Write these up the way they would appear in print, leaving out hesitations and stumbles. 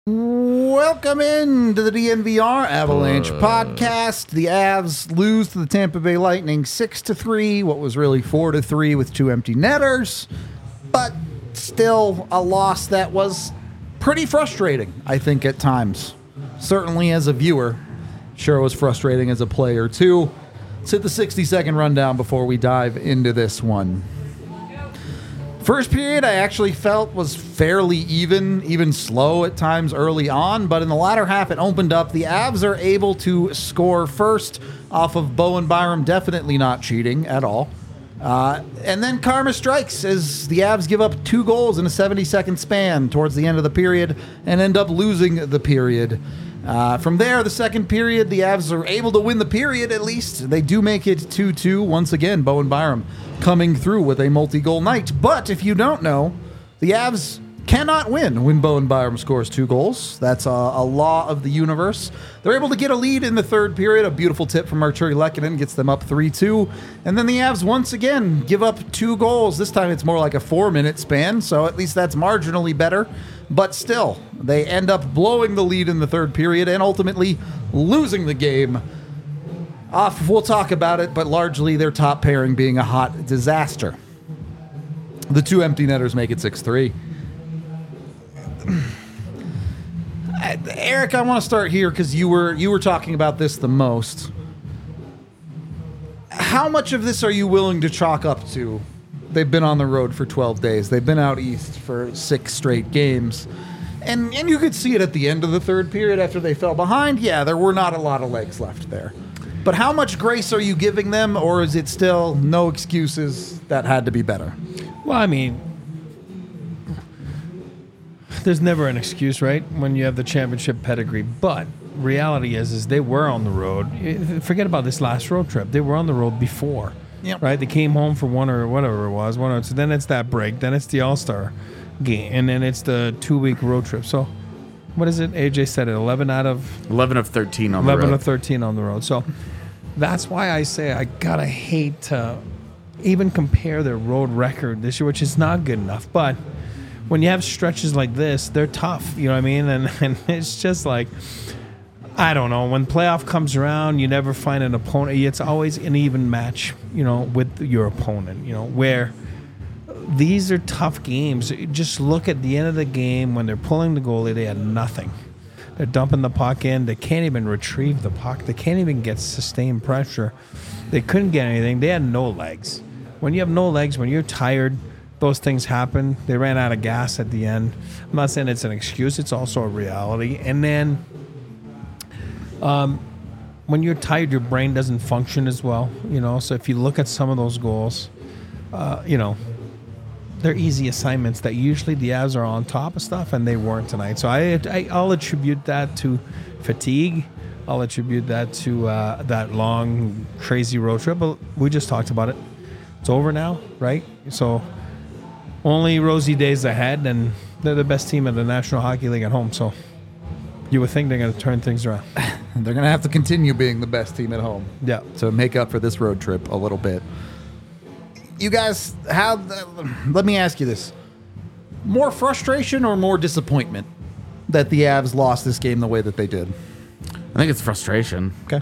Welcome into the DNVR Avalanche podcast. The Avs lose to the Tampa Bay Lightning 6-3, what was really 4-3 with two empty netters, but still a loss that was pretty frustrating, I think, at times. Certainly as a viewer. Sure, it was frustrating as a player, too. Let's hit the 60-second rundown before we dive into this one. First period, I actually felt was fairly even slow at times early on, but in the latter half, it opened up. The Avs are able to score first off of Bowen Byram, definitely not cheating at all. And then karma strikes as the Avs give up 2 goals in a 70-second span towards the end of the period and end up losing the period. From there, the second period, the Avs are able to win the period at least. They do make it 2-2 once again. Bowen Byram coming through with a multi-goal night. But if you don't know, the Avs cannot win when Bowen Byram scores 2 goals. That's a law of the universe. They're able to get a lead in the third period. A beautiful tip from Arturi Lehkonen gets them up 3-2. And then the Avs once again give up 2 goals. This time it's more like a 4-minute span, so at least that's marginally better. But still, they end up blowing the lead in the third period and ultimately losing the game. We'll talk about it, but largely their top pairing being a hot disaster. The 2 empty netters make it 6-3. Eric, I want to start here because you were talking about this the most. How much of this are you willing to chalk up to? They've been on the road for 12 days. They've been out east for 6 straight games. And you could see it at the end of the third period after they fell behind. Yeah, there were not a lot of legs left there. But how much grace are you giving them, or is it still no excuses that had to be better? Well, I mean, there's never an excuse, right, when you have the championship pedigree. But reality is they were on the road. Forget about this last road trip. They were on the road before, Yep. right? They came home for one or whatever it was. So then it's that break. Then it's the All-Star game. And then it's the 2-week road trip. So what is it? AJ said it, 11 of 13 on the road. 11 of 13 on the road. So that's why I say I gotta hate to even compare their road record this year, which is not good enough. But when you have stretches like this, they're tough. You know what I mean? And it's just like, I don't know. When playoff comes around, you never find an opponent. It's always an even match, with your opponent, where these are tough games. Just look at the end of the game when they're pulling the goalie, they had nothing. They're dumping the puck in. They can't even retrieve the puck. They can't even get sustained pressure. They couldn't get anything. They had no legs. When you have no legs, when you're tired, those things happen. They ran out of gas at the end. I'm not saying it's an excuse. It's also a reality. And then when you're tired, your brain doesn't function as well. So if you look at some of those goals, they're easy assignments that usually the Avs are on top of stuff, and they weren't tonight. So I'll attribute that to fatigue. I'll attribute that to that long, crazy road trip. But we just talked about it. It's over now, right? So only rosy days ahead, and they're the best team in the National Hockey League at home. So you would think they're going to turn things around. They're going to have to continue being the best team at home. Yeah. To make up for this road trip a little bit. You guys, let me ask you this. More frustration or more disappointment that the Avs lost this game the way that they did? I think it's frustration. Okay.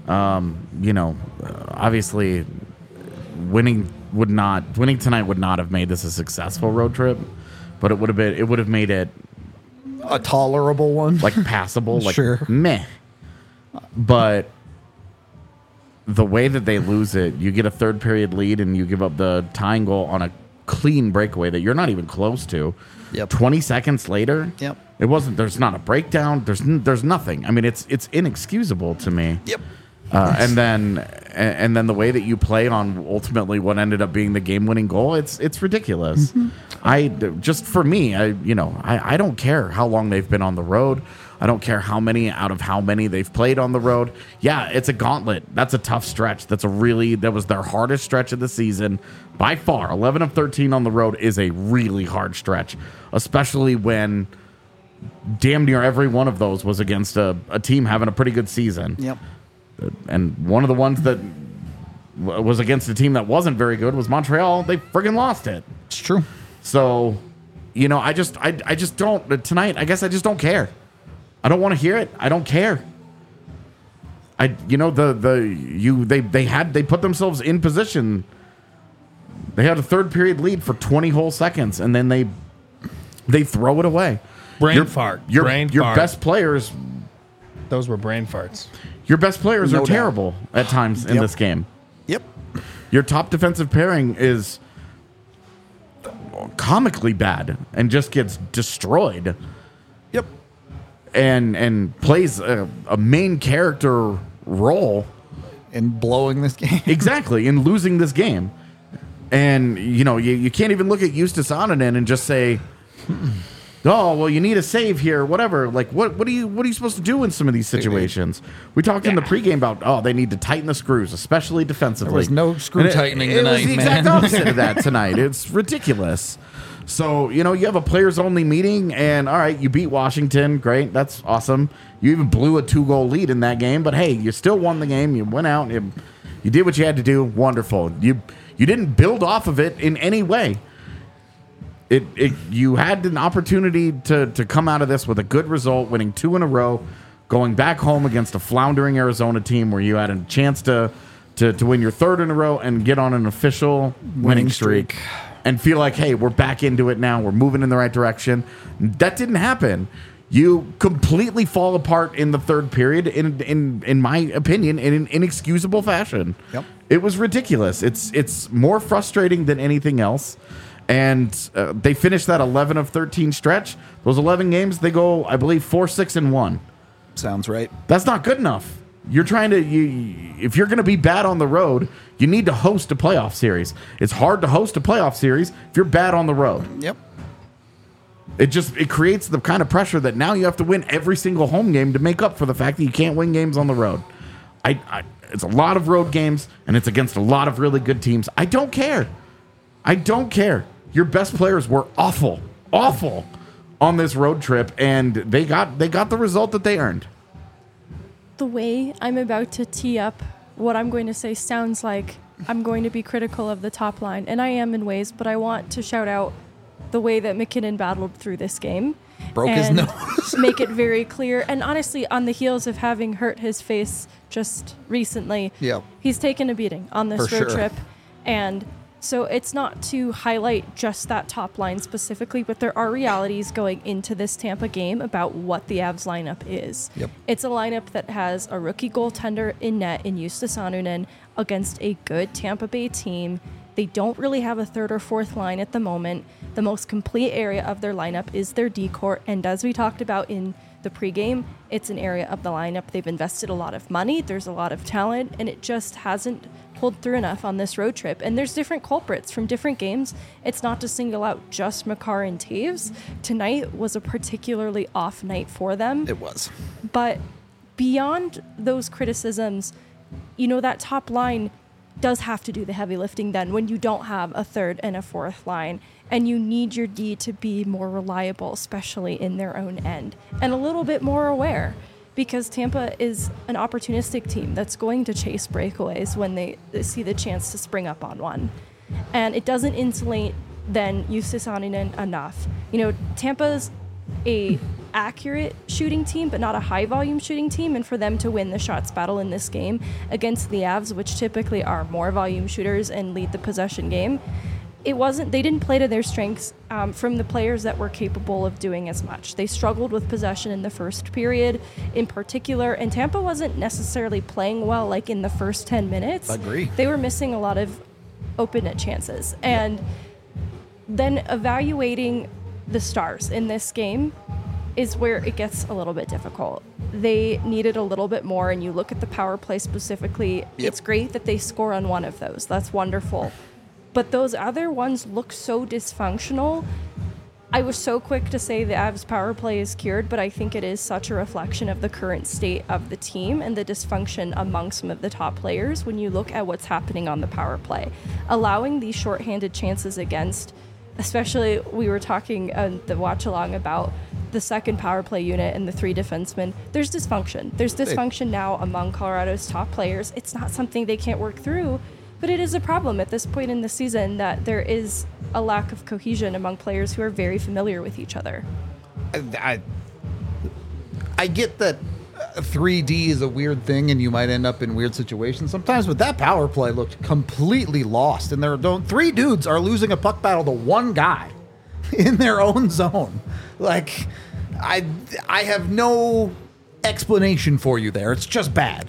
Obviously, winning tonight would not have made this a successful road trip, but it would have made it a tolerable one, like passable, like sure. Meh. But the way that they lose it, you get a third period lead and you give up the tying goal on a clean breakaway that you're not even close to. Yep. 20 seconds later, Yep. It wasn't. There's not a breakdown. There's nothing. I mean, it's inexcusable to me. Yep. And then the way that you play on ultimately what ended up being the game-winning goal, it's ridiculous. Mm-hmm. I don't care how long they've been on the road. I don't care how many they've played on the road. Yeah, it's a gauntlet. That's a tough stretch. That was their hardest stretch of the season by far. 11 of 13 on the road is a really hard stretch, especially when damn near every one of those was against a team having a pretty good season. Yep. And one of the ones that was against a team that wasn't very good was Montreal. They friggin' lost it. It's true. So, I just don't tonight. I guess I just don't care. I don't want to hear it. I don't care. They put themselves in position. They had a third period lead for 20 whole seconds, and then they throw it away. Brain fart. Your best players. Those were brain farts. Your best players No are doubt. terrible at times in this game. Yep. Your top defensive pairing is comically bad and just gets destroyed. Yep. And plays a main character role And blowing this game. exactly in losing this game. And you can't even look at Justus Anonen and just say, oh, well, you need a save here, whatever. Like, what are you supposed to do in some of these situations? We talked in the pregame about, they need to tighten the screws, especially defensively. There was no screw tightening it tonight, was the man. exact opposite of that tonight. It's ridiculous. So, you have a players-only meeting, and, all right, you beat Washington. Great. That's awesome. You even blew a 2-goal lead in that game. But, hey, you still won the game. You went out. You did what you had to do. Wonderful. You didn't build off of it in any way. You had an opportunity to come out of this with a good result, winning 2 in a row, going back home against a floundering Arizona team where you had a chance to win your 3rd in a row and get on an official winning streak and feel like, hey, we're back into it now. We're moving in the right direction. That didn't happen. You completely fall apart in the 3rd period, in my opinion, in an inexcusable fashion. Yep. It was ridiculous. It's more frustrating than anything else. And they finished that 11 of 13 stretch. Those 11 games, they go, I believe, 4-6-1. Sounds right. That's not good enough. You're trying to, if you're going to be bad on the road, you need to host a playoff series. It's hard to host a playoff series if you're bad on the road. Yep. It creates the kind of pressure that now you have to win every single home game to make up for the fact that you can't win games on the road. It's a lot of road games, and it's against a lot of really good teams. I don't care. Your best players were awful on this road trip, and they got the result that they earned. The way I'm about to tee up what I'm going to say sounds like I'm going to be critical of the top line, and I am in ways, but I want to shout out the way that McKinnon battled through this game. Broke his and nose. make it very clear. And honestly, on the heels of having hurt his face just recently, Yep. he's taken a beating on this For road sure. trip. And so it's not to highlight just that top line specifically, but there are realities going into this Tampa game about what the Avs lineup is. Yep. It's a lineup that has a rookie goaltender in net in Justus Anonen against a good Tampa Bay team. They don't really have a 3rd or 4th line at the moment. The most complete area of their lineup is their D-court, and as we talked about in the pregame, it's an area of the lineup they've invested a lot of money, there's a lot of talent, and it just hasn't pulled through enough on this road trip. And there's different culprits from different games. It's not to single out just Makar and Taves. Tonight was a particularly off night for them. It was. But beyond those criticisms, that top line does have to do the heavy lifting then when you don't have a 3rd and a 4th line, and you need your D to be more reliable, especially in their own end, and a little bit more aware, because Tampa is an opportunistic team that's going to chase breakaways when they see the chance to spring up on one. And it doesn't insulate then Justus Anonen enough. Tampa's a accurate shooting team, but not a high volume shooting team. And for them to win the shots battle in this game against the Avs, which typically are more volume shooters and lead the possession game, they didn't play to their strengths from the players that were capable of doing as much. They struggled with possession in the first period in particular, and Tampa wasn't necessarily playing well like in the first 10 minutes. Agree. They were missing a lot of open net chances. And then evaluating the Stars in this game is where it gets a little bit difficult. They needed a little bit more, and you look at the power play specifically, It's great that they score on one of those. That's wonderful. But those other ones look so dysfunctional. I was so quick to say the Avs power play is cured, but I think it is such a reflection of the current state of the team and the dysfunction among some of the top players when you look at what's happening on the power play. Allowing these shorthanded chances against, especially we were talking the watch along about the second power play unit and the 3 defensemen. There's dysfunction. There's dysfunction now among Colorado's top players. It's not something they can't work through, but it is a problem at this point in the season that there is a lack of cohesion among players who are very familiar with each other. I I get that 3D is a weird thing and you might end up in weird situations sometimes, but that power play looked completely lost. And three dudes are losing a puck battle to one guy in their own zone. Like, I have no explanation for you there. It's just bad.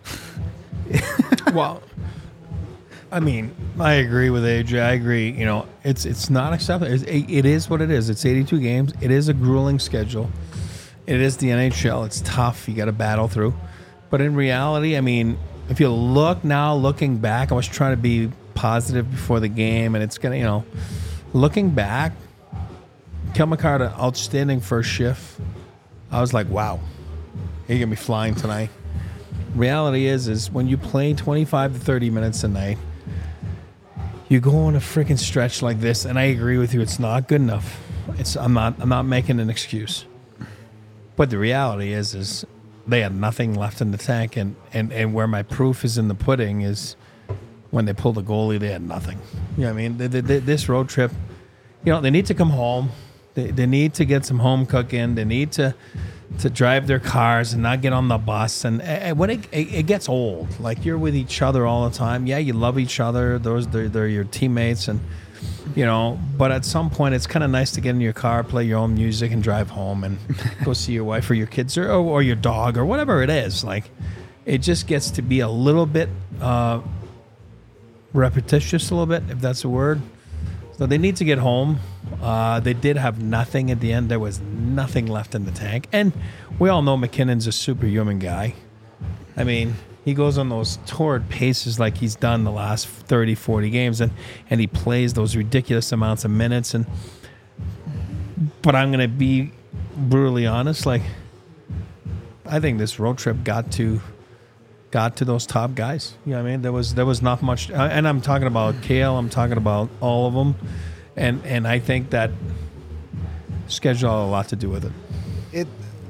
Well, I mean, I agree with AJ. I agree. You know, it's not acceptable. It is what it is. It's 82 games. It is a grueling schedule. It is the NHL. It's tough. You got to battle through. But in reality, I mean, if you look now, looking back, I was trying to be positive before the game, and it's going to, you know, looking back, Cale Makar had an outstanding first shift. I was like, wow, you're going to be flying tonight. Reality is when you play 25 to 30 minutes a night, you go on a freaking stretch like this, and I agree with you, it's not good enough. I'm not making an excuse. But the reality is they had nothing left in the tank, and where my proof is in the pudding is when they pulled the goalie, they had nothing. You know what I mean? This road trip, you know, they need to come home. They need to get some home cooking. They need to drive their cars and not get on the bus. And when it gets old, like you're with each other all the time. Yeah, you love each other. They're your teammates, and you know. But at some point, it's kind of nice to get in your car, play your own music, and drive home and go see your wife or your kids or your dog or whatever it is. Like, it just gets to be a little bit repetitious, a little bit, if that's a word. So they need to get home. They did have nothing at the end. There was nothing left in the tank. And we all know McKinnon's a superhuman guy. I mean, he goes on those torrid paces like he's done the last 30, 40 games, and he plays those ridiculous amounts of minutes. But I'm going to be brutally honest. Like, I think this road trip got to those top guys. You know what I mean? There was not much. And I'm talking about Cale. I'm talking about all of them. And I think that schedule had a lot to do with it.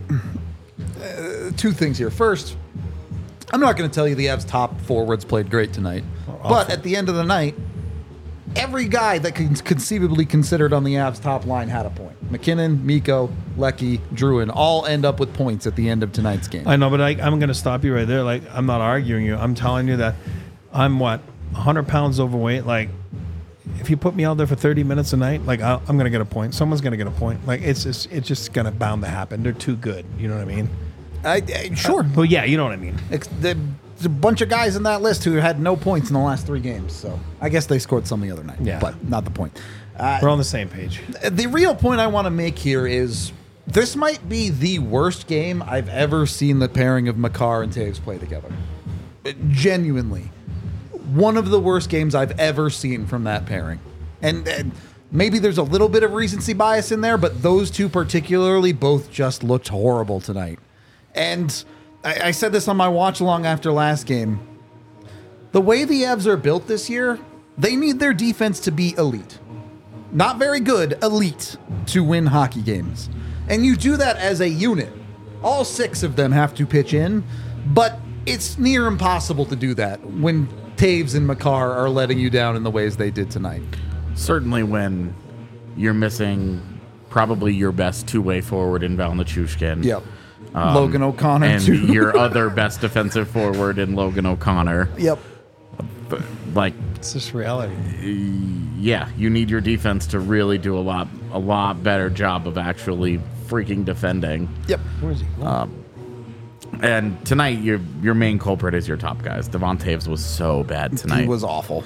Two things here. First, I'm not going to tell you the Avs top forwards played great tonight. But at the end of the night, every guy that can conceivably considered on the Avs top line had a point. McKinnon, Mikko, Lecky, Drouin all end up with points at the end of tonight's game. I know, but I'm going to stop you right there. Like, I'm not arguing you. I'm telling you that I'm 100 pounds overweight. Like, if you put me out there for 30 minutes a night, like, I'm going to get a point. Someone's going to get a point. Like, it's just going to bound to happen. They're too good. You know what I mean? Sure. Well, yeah, you know what I mean. There's a bunch of guys in that list who had no points in the last 3 games. So I guess they scored some the other night. Yeah. But not the point. We're on the same page. The real point I want to make here is this might be the worst game I've ever seen the pairing of Makar and Taves play together. Genuinely. One of the worst games I've ever seen from that pairing. And maybe there's a little bit of recency bias in there, but those two particularly both just looked horrible tonight. And I said this on my watch along after last game. The way the Avs are built this year, they need their defense to be elite. Not very good, elite, to win hockey games. And you do that as a unit. All 6 of them have to pitch in, but it's near impossible to do that when Taves and Makar are letting you down in the ways they did tonight. Certainly when you're missing probably your best two-way forward in Val Nichushkin. Yep. Logan O'Connor, and too. your other best defensive forward in Logan O'Connor. Yep. Like, It's just reality. yeah, you need your defense to really do a lot better job of actually freaking defending. Yep. Where's he going? And tonight, your main culprit is your top guys. Devon Taves was so bad tonight. He was awful.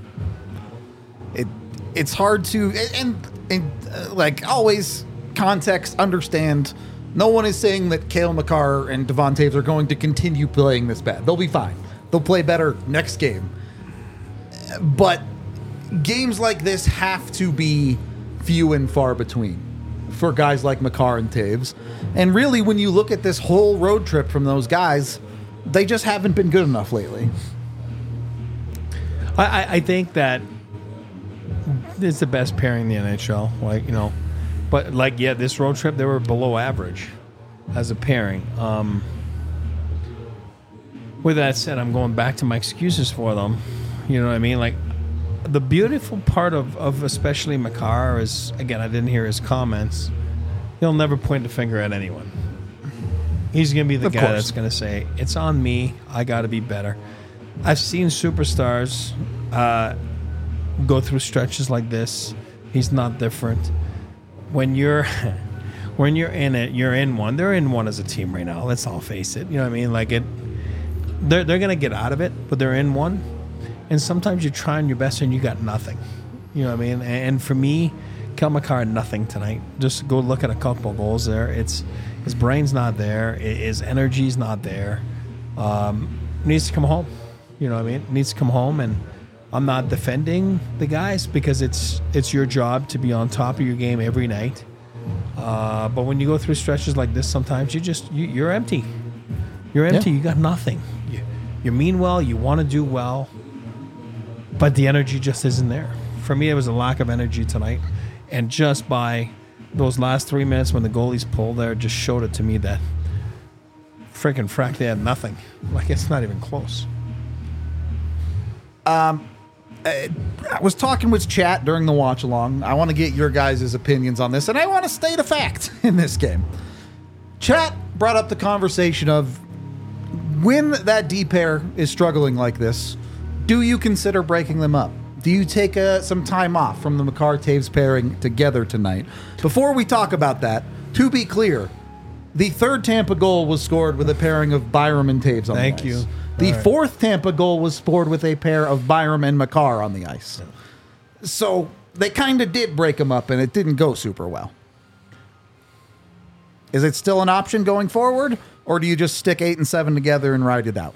It's hard to and like always, context, understand. No one is saying that Cale Makar and Devon Taves are going to continue playing this bad. They'll be fine. They'll play better next game. But games like this have to be few and far between for guys like Makar and Taves. And really, when you look at this whole road trip from those guys, they just haven't been good enough lately. I think that it's the best pairing in the NHL. Like, you know, but like, yeah, this road trip, they were below average as a pairing. With that said, I'm going back to my excuses for them. You know what I mean? Like, the beautiful part of especially Makar is, again, I didn't hear his comments. He'll never point the finger at anyone. He's going to be the Of guy course. that's going to say, it's on me. I got to be better. I've seen superstars go through stretches like this. He's not different. When you're in it, you're in one. They're in one as a team right now. Let's all face it. You know what I mean? Like they're going to get out of it, but they're in one. And sometimes you're trying your best and you got nothing. You know what I mean? And for me, Kel McCarr had nothing tonight. Just go look at a couple of goals there. His brain's not there. His energy's not there. Needs to come home. You know what I mean? Needs to come home. And I'm not defending the guys because it's your job to be on top of your game every night. But when you go through stretches like this, sometimes you're empty. You're empty. Yeah. You got nothing. You mean well. You want to do well. But the energy just isn't there. For me, it was a lack of energy tonight. And just by those last 3 minutes when the goalies pulled there, just showed it to me that freaking frack, they had nothing. Like, it's not even close. I was talking with chat during the watch along. I want to get your guys' opinions on this, and I want to state a fact in this game. Chat brought up the conversation of when that D pair is struggling like this, do you consider breaking them up? Do you take some time off from the McCarr-Taves pairing together tonight? Before we talk about that, to be clear, the third Tampa goal was scored with a pairing of Byram and Taves on Thank the ice. you. The All right. fourth Tampa goal was scored with a pair of Byram and McCarr on the ice. So they kind of did break them up, and it didn't go super well. Is it still an option going forward, or do you just stick 8 and 7 together and ride it out?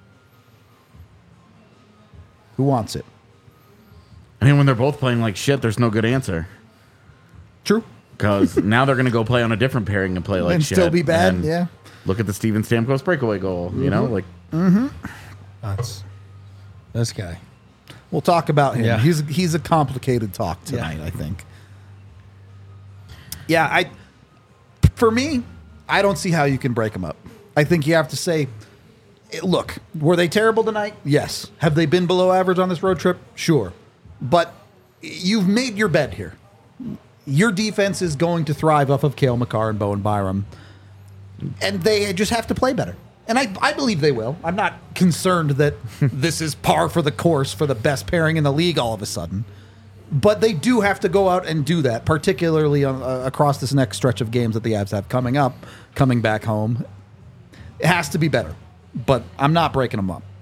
Who wants it? I mean, when they're both playing like shit, there's no good answer. True. Because now they're going to go play on a different pairing and play like And shit. still be bad, And yeah. Look at the Steven Stamkos breakaway goal. You know, like That's this guy. We'll talk about him. Yeah. He's a complicated talk tonight, I think. Yeah, for me, I don't see how you can break them up. I think you have to say, look, were they terrible tonight? Yes. Have they been below average on this road trip? Sure. But you've made your bed here. Your defense is going to thrive off of Cale Makar and Bowen Byram. And they just have to play better. And I believe they will. I'm not concerned that this is par for the course for the best pairing in the league all of a sudden. But they do have to go out and do that, particularly across this next stretch of games that the Avs have coming up, coming back home. It has to be better. But I'm not breaking them up.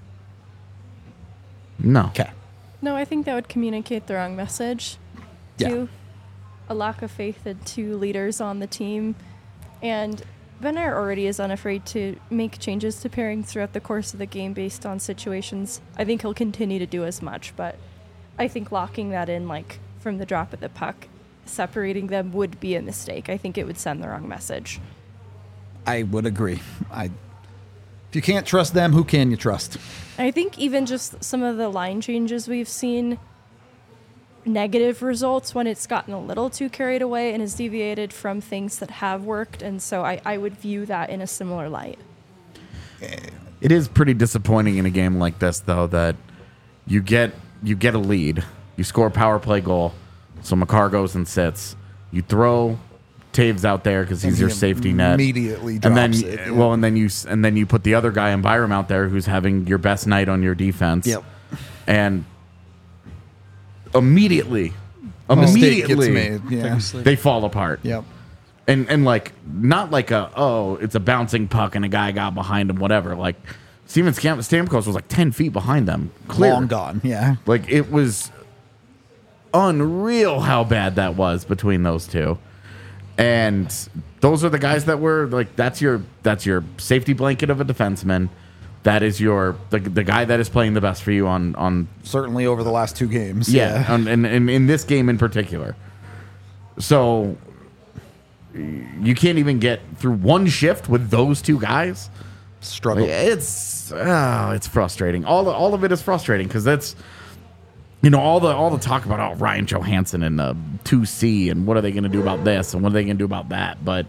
no. Okay. No, I think that would communicate the wrong message Yeah. to a lack of faith in two leaders on the team. And Ben Ayer already is unafraid to make changes to pairings throughout the course of the game based on situations. I think he'll continue to do as much, but I think locking that in, like, from the drop of the puck, separating them would be a mistake. I think it would send the wrong message. I would agree. If you can't trust them, who can you trust? I think even just some of the line changes we've seen, negative results when it's gotten a little too carried away and has deviated from things that have worked. And so I would view that in a similar light. It is pretty disappointing in a game like this, though, that you get a lead, you score a power play goal, so Makar goes and sits. You throw Taves out there because he's And your he safety net. immediately and then drops it, yeah. well, and then you put the other guy in Byram out there who's having your best night on your defense. Yep. And immediately Mistake gets made. Yeah. they fall apart. Yep. And like not like it's a bouncing puck and a guy got behind him, whatever. Like Steven Stamkos was like 10 feet behind them. Clear. Long gone. Yeah. Like it was unreal how bad that was between those two. And those are the guys that were like that's your safety blanket of a defenseman. That is the guy that is playing the best for you on Certainly over the last two games. yeah. And in this game in particular. So you can't even get through one shift with those two guys. Struggle. It's frustrating. All of it is frustrating because that's all the talk about Ryan Johansson and 2C and what are they going to do about this and what are they going to do about that. But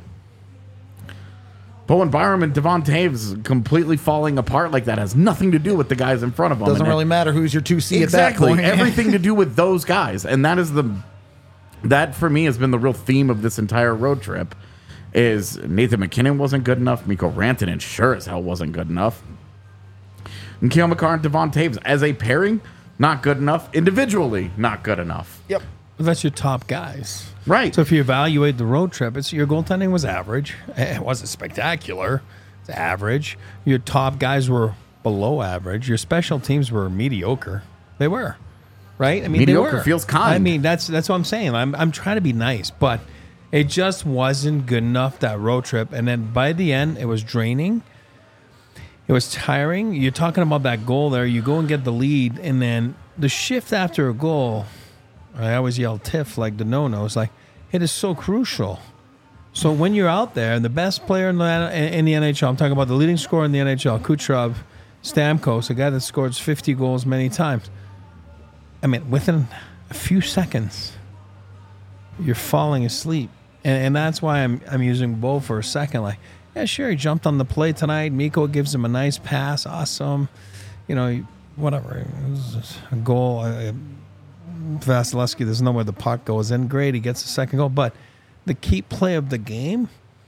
Bowen Byram and Devon Taves completely falling apart like that has nothing to do with the guys in front of them. Doesn't really matter who's your 2C exactly at that point. everything to do with those guys, and that for me has been the real theme of this entire road trip. is Nathan McKinnon wasn't good enough. Mikko Rantanen sure as hell wasn't good enough. And Kale McCarr and Devon Taves as a pairing, not good enough. Individually, not good enough. Yep. But that's your top guys. Right. So if you evaluate the road trip, your goaltending was average. It wasn't spectacular. It's average. Your top guys were below average. Your special teams were mediocre. They were. Right? I mean, Mediocre they were. feels kind. I mean, that's what I'm saying. I'm trying to be nice, but it just wasn't good enough, that road trip. And then by the end, it was draining. It was tiring. You're talking about that goal there. You go and get the lead, and then the shift after a goal, I always yell TIFF like the no-no. It's like, it is so crucial. So when you're out there, and the best player in the NHL, I'm talking about the leading scorer in the NHL, Kucherov, Stamkos, a guy that scores 50 goals many times. I mean, within a few seconds, you're falling asleep. And that's why I'm using Bo for a second. Like, yeah, sure, he jumped on the play tonight. Mikko gives him a nice pass. Awesome. You know, whatever. It was a goal. Vasilevsky, there's no way the puck goes in. Great, he gets the second goal. But the key play of the game,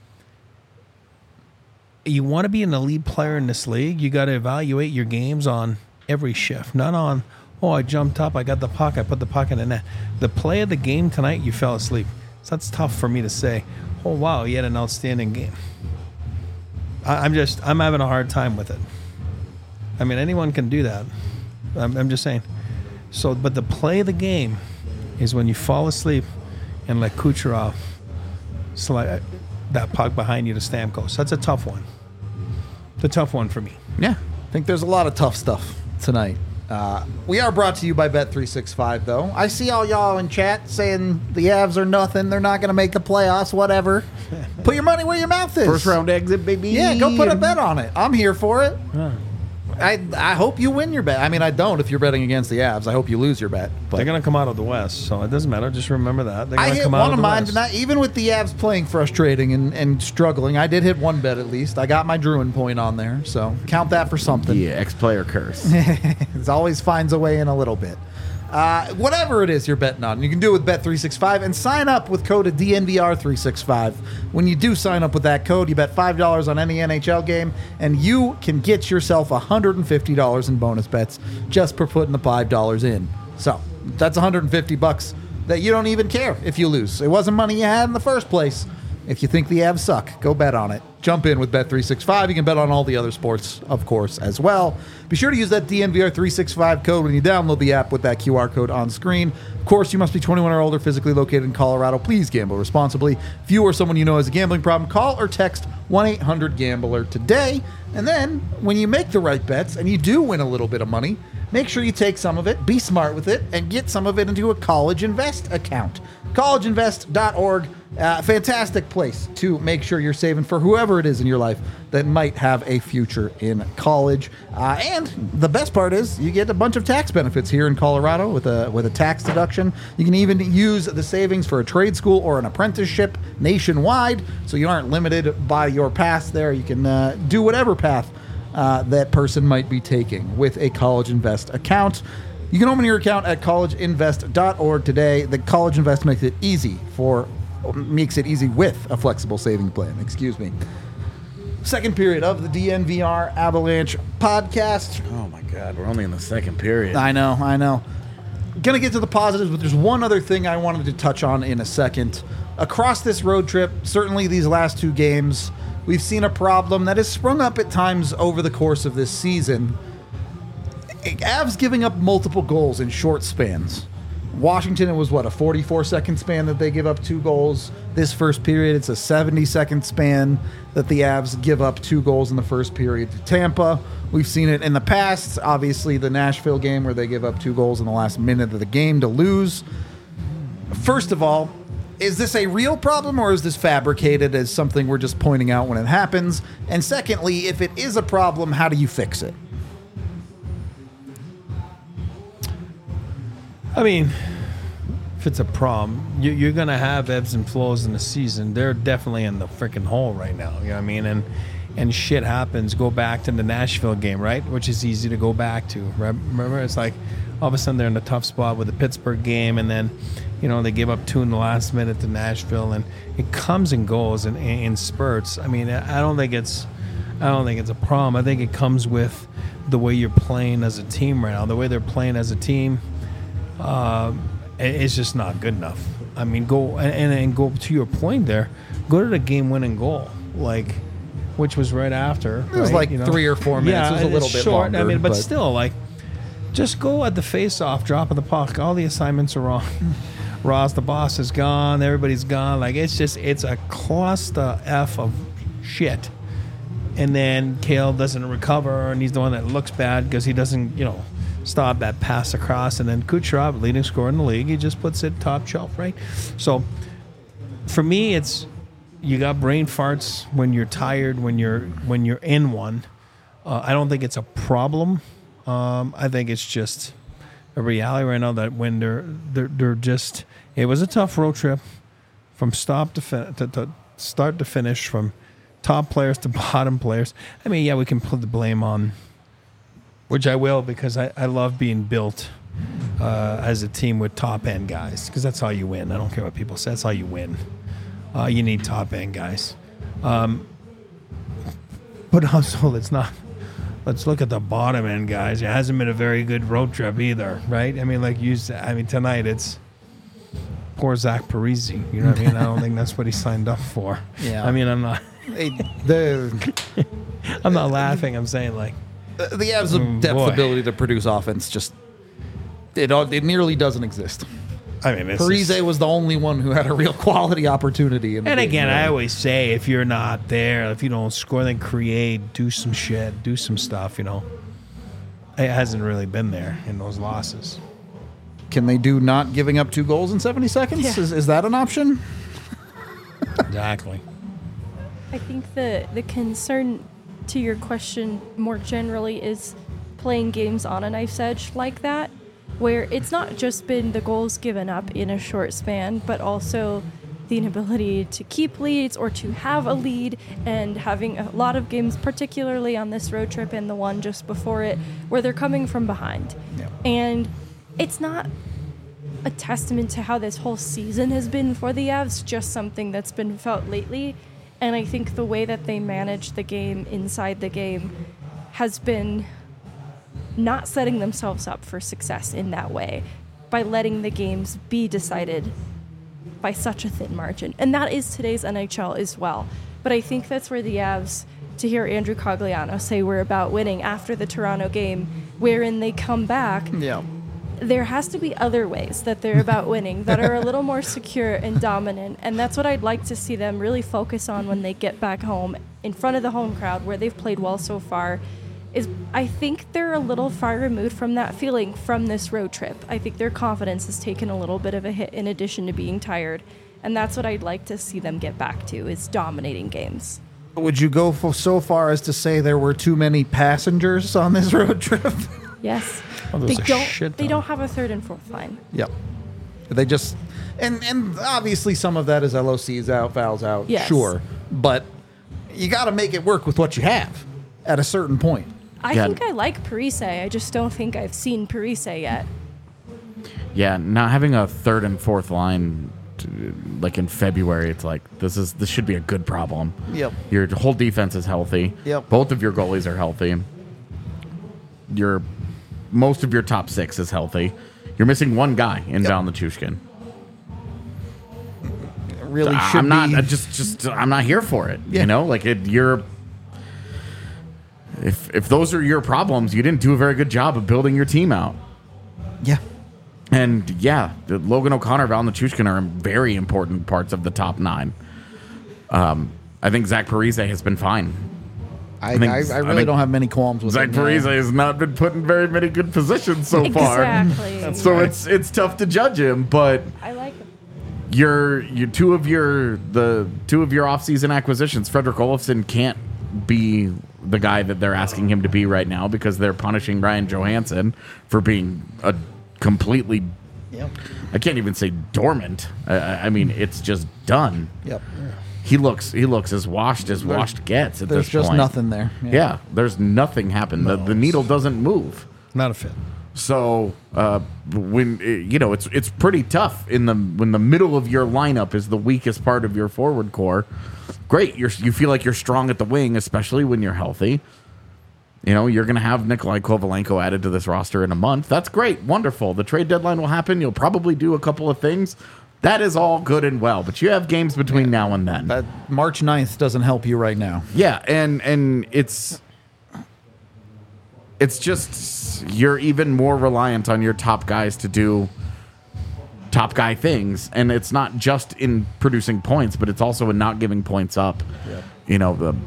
you want to be an elite player in this league, you got to evaluate your games on every shift, not on, oh, I jumped up, I got the puck, I put the puck in the net. The play of the game tonight, you fell asleep. So that's tough for me to say, oh, wow, he had an outstanding game. I'm having a hard time with it. I mean, anyone can do that. I'm just saying. So, but the play of the game is when you fall asleep and let Kucherov slide that puck behind you to Stamkos. That's a tough one. It's a tough one for me. Yeah, I think there's a lot of tough stuff tonight. We are brought to you by Bet365, though. I see all y'all in chat saying the Avs are nothing. They're not going to make the playoffs, whatever. Put your money where your mouth is. First round exit, baby. Yeah, go put a bet on it. I'm here for it. Yeah. I hope you win your bet. I mean, I don't if you're betting against the Avs. I hope you lose your bet. But They're going to come out of the West, so it doesn't matter. Just remember that. They're I going to hit come out one of of the mine West. tonight. Even with the Avs playing frustrating and struggling, I did hit one bet at least. I got my Druin point on there, so count that for something. Yeah, ex-player curse. It always finds a way in a little bit. Whatever it is you're betting on, you can do it with Bet365 and sign up with code DNVR365. When you do sign up with that code, you bet $5 on any NHL game, and you can get yourself $150 in bonus bets just for putting the $5 in. So that's $150 that you don't even care if you lose. It wasn't money you had in the first place. If you think the Avs suck, go bet on it. Jump in with Bet365. You can bet on all the other sports, of course, as well. Be sure to use that DNVR365 code when you download the app with that QR code on screen. Of course, you must be 21 or older, physically located in Colorado. Please gamble responsibly. If you or someone you know has a gambling problem, call or text 1-800-GAMBLER today. And then, when you make the right bets and you do win a little bit of money, make sure you take some of it, be smart with it, and get some of it into a College Invest account. collegeinvest.org. Fantastic place to make sure you're saving for whoever it is in your life that might have a future in college. And the best part is you get a bunch of tax benefits here in Colorado with a tax deduction. You can even use the savings for a trade school or an apprenticeship nationwide, so you aren't limited by your path there. You can do whatever path that person might be taking with a College Invest account. You can open your account at collegeinvest.org today. The College Invest makes it easy with a flexible saving plan. Excuse me. Second period of the DNVR Avalanche podcast. Oh, my God. We're only in the second period. I know. Gonna get to the positives, but there's one other thing I wanted to touch on in a second. Across this road trip, certainly these last two games, we've seen a problem that has sprung up at times over the course of this season. Avs giving up multiple goals in short spans. Washington, it was a 44-second span that they give up 2 goals. This first period, it's a 70-second span that the Avs give up 2 goals in the first period to Tampa. We've seen it in the past, obviously the Nashville game where they give up 2 goals in the last minute of the game to lose. First of all, is this a real problem or is this fabricated as something we're just pointing out when it happens? And secondly, if it is a problem, how do you fix it? I mean, if it's a problem, you're going to have ebbs and flows in the season. They're definitely in the freaking hole right now. You know what I mean? And shit happens. Go back to the Nashville game, right? Which is easy to go back to. Remember, it's like all of a sudden they're in a tough spot with the Pittsburgh game, and then They give up 2 in the last minute to Nashville, and it comes and goes in spurts. I mean, I don't think it's a problem. I think it comes with the way you're playing as a team right now. The way they're playing as a team, it's just not good enough. I mean, go to your point there. Go to the game-winning goal, which was right after. It was 3 or 4 minutes. Yeah, it was a little it's bit short. longer. I mean, but still, just go at the face-off, drop of the puck. All the assignments are wrong. Ross, the boss, is gone. Everybody's gone. It's a cluster F of shit. And then Kale doesn't recover, and he's the one that looks bad because he doesn't, stop that pass across. And then Kucherov, leading scorer in the league, he just puts it top shelf, right? So for me, it's you got brain farts when you're tired, when you're in one. I don't think it's a problem. I think it's just a reality right now that when they're just. It was a tough road trip from start to finish, from top players to bottom players. I mean, yeah, we can put the blame on, which I will, because I love being built as a team with top end guys, because that's how you win. I don't care what people say. That's how you win. You need top end guys. But also, let's look at the bottom end guys. It hasn't been a very good road trip either, right? I mean, tonight it's poor Zach Parise. You know what I mean? I don't think that's what he signed up for. Yeah. I mean, I'm not. I'm not laughing. I'm saying the Avs' depth ability to produce offense just it nearly doesn't exist. I mean, Parise was the only one who had a real quality opportunity. And again, I always say, if you're not there, if you don't score, then create, do some shit, do some stuff. It hasn't really been there in those losses. Can they do not giving up 2 goals in 70 seconds? Yeah. Is that an option? Exactly. I think the concern to your question more generally is playing games on a knife's edge like that, where it's not just been the goals given up in a short span, but also the inability to keep leads or to have a lead, and having a lot of games, particularly on this road trip and the one just before it, where they're coming from behind. Yeah. And it's not a testament to how this whole season has been for the Avs, just something that's been felt lately. And I think the way that they manage the game inside the game has been not setting themselves up for success in that way by letting the games be decided by such a thin margin. And that is today's NHL as well. But I think that's where the Avs, to hear Andrew Cogliano say we're about winning after the Toronto game, wherein they come back, Yeah. there has to be other ways that they're about winning that are a little more secure and dominant. And that's what I'd like to see them really focus on when they get back home in front of the home crowd, where they've played well so far. Is I think they're a little far removed from that feeling from this road trip. I think their confidence has taken a little bit of a hit in addition to being tired. And that's what I'd like to see them get back to, is dominating games. Would you go so far as to say there were too many passengers on this road trip? Yes. Oh, They there's a don't shit they ton. don't have a third and fourth line. Yep. They just and obviously some of that is LOCs out, fouls out, Yes. sure. But you got to make it work with what you have at a certain point. I Yeah. think I like Parise. I just don't think I've seen Parise yet. Yeah, not having a third and fourth line in February, it's like this should be a good problem. Yep. Your whole defense is healthy. Yep. Both of your goalies are healthy. Most of your top 6 is healthy. You're missing one guy in Val Nichushkin. It really should I'm not be. I'm not here for it. Yeah. If those are your problems, you didn't do a very good job of building your team out. Yeah. And yeah, Logan O'Connor, Val Nichushkin are very important parts of the top 9. I think Zach Parise has been fine. I think- really don't have many qualms with Zach it. Parise has not been put in very many good positions so far. Exactly. So it's tough to judge him, but I like him. your two of your offseason acquisitions, Frederick Olofsson can't be the guy that they're asking him to be right now because they're punishing Ryan Johansson for being a completely, Yep. I can't even say dormant. I mean, it's just done. Yep. He looks as washed as washed gets at There's this just point. nothing there. Yeah, there's nothing happened. The needle doesn't move. Not a fit. So when it's pretty tough when the middle of your lineup is the weakest part of your forward core. Great, you feel like you're strong at the wing, especially when you're healthy. You're going to have Nikolai Kovalenko added to this roster in a month. That's great, wonderful. The trade deadline will happen. You'll probably do a couple of things. That is all good and well, but you have games between now and then. That March 9th doesn't help you right now. Yeah, and it's just you're even more reliant on your top guys to do top guy things, and it's not just in producing points, but it's also in not giving points up. Yep.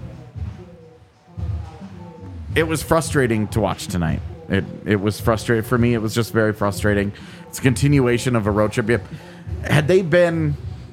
It was frustrating to watch tonight. It was frustrating for me. It was just very frustrating. It's a continuation of a road trip. Had they been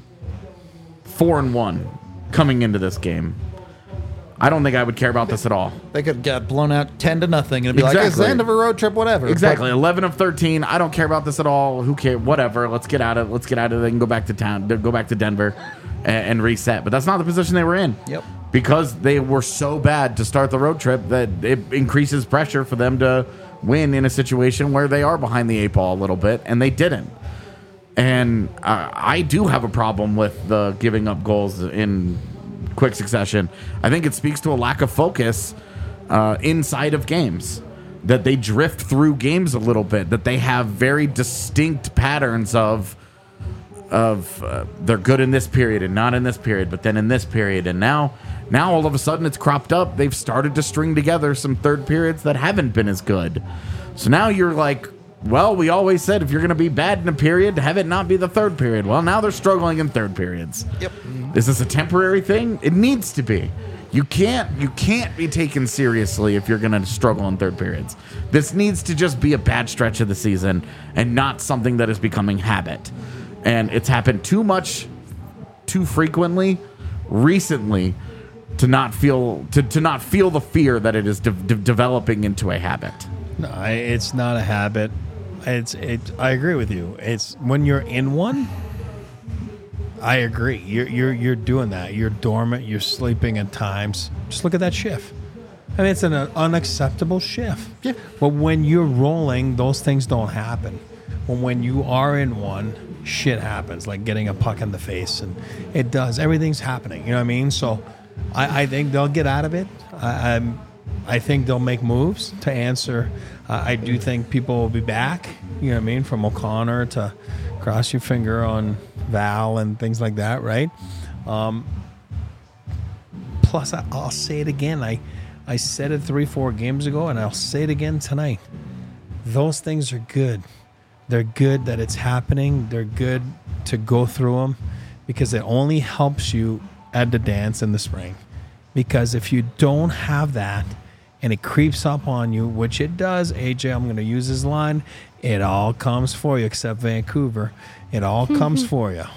4-1 coming into this game, I don't think I would care about this at all. They could get blown out 10-0 and be like, it's the end of a road trip, whatever. Exactly. 11 of 13. I don't care about this at all. Who cares? Whatever. Let's get out of it. They can go back to town, go back to Denver and reset. But that's not the position they were in. Yep. Because they were so bad to start the road trip that it increases pressure for them to win in a situation where they are behind the 8 ball a little bit, and they didn't. And I do have a problem with the giving up goals in quick succession. I think it speaks to a lack of focus inside of games, that they drift through games a little bit, that they have very distinct patterns of they're good in this period and not in this period, but then in this period. And now all of a sudden it's cropped up. They've started to string together some third periods that haven't been as good. So now you're like, well, we always said if you're going to be bad in a period, have it not be the third period. Well, now they're struggling in third periods. Yep. Is this a temporary thing? It needs to be. You can't be taken seriously if you're going to struggle in third periods. This needs to just be a bad stretch of the season and not something that is becoming habit. And it's happened too much, too frequently, recently, to not feel the fear that it is developing into a habit. No, it's not a habit. I agree with you. It's when you're in one. I agree. You're doing that. You're dormant. You're sleeping at times. Just look at that shift. I mean, it's an unacceptable shift. Yeah. But when you're rolling, those things don't happen. But when you are in one, shit happens, like getting a puck in the face, and it does. Everything's happening. You know what I mean? So, I think they'll get out of it. I think they'll make moves to answer. I do think people will be back, you know what I mean, from O'Connor to cross your finger on Val and things like that, right? Plus, I'll say it again. I said it 3-4 games ago, and I'll say it again tonight. Those things are good. They're good that it's happening. They're good to go through them because it only helps you at the dance in the spring. Because if you don't have that, and it creeps up on you, which it does. AJ, I'm going to use his line. It all comes for you, except Vancouver. It all comes for you.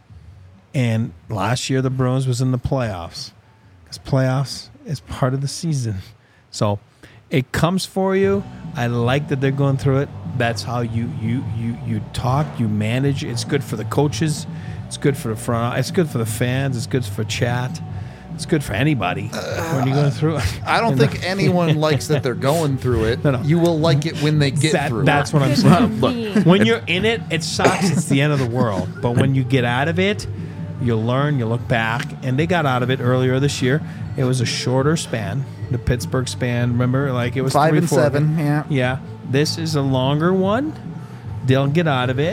And last year, the Bruins was in the playoffs. Because playoffs is part of the season. So it comes for you. I like that they're going through it. That's how you talk, you manage. It's good for the coaches. It's good for the front. It's good for the fans. It's good for chat. It's good for anybody when you're going through it. I don't think anyone likes that they're going through it. No. You will like it when they get through that's it. That's what I'm saying. Look, when you're in it, it sucks. It's the end of the world. But when you get out of it, you learn, you look back. And they got out of it earlier this year. It was a shorter span. The Pittsburgh span, remember? Like it was 5 and 3-4. 7, yeah. Yeah. This is a longer one. They'll get out of it.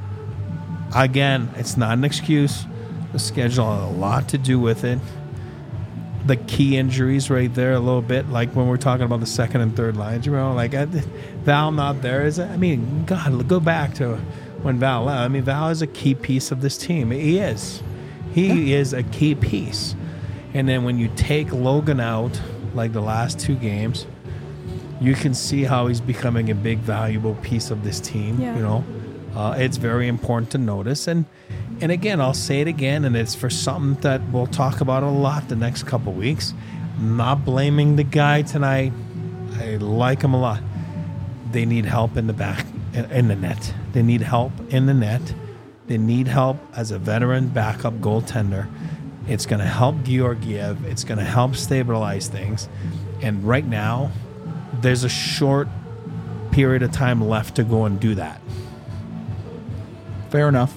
Again, it's not an excuse. The schedule has a lot to do with it. The key injuries right there a little bit, like when we're talking about the second and third lines, you know, like Val not there is. I mean, God, go back to when Val left. I mean, Val is a key piece of this team. He is a key piece. And then when you take Logan out, like the last 2 games, you can see how he's becoming a big, valuable piece of this team. Yeah. You know, it's very important to notice. And again, I'll say it again, and it's for something that we'll talk about a lot the next couple weeks. I'm not blaming the guy tonight. I like him a lot. They need help in the back, in the net. They need help in the net. They need help as a veteran backup goaltender. It's going to help Georgiev. It's going to help stabilize things. And right now, there's a short period of time left to go and do that. Fair enough.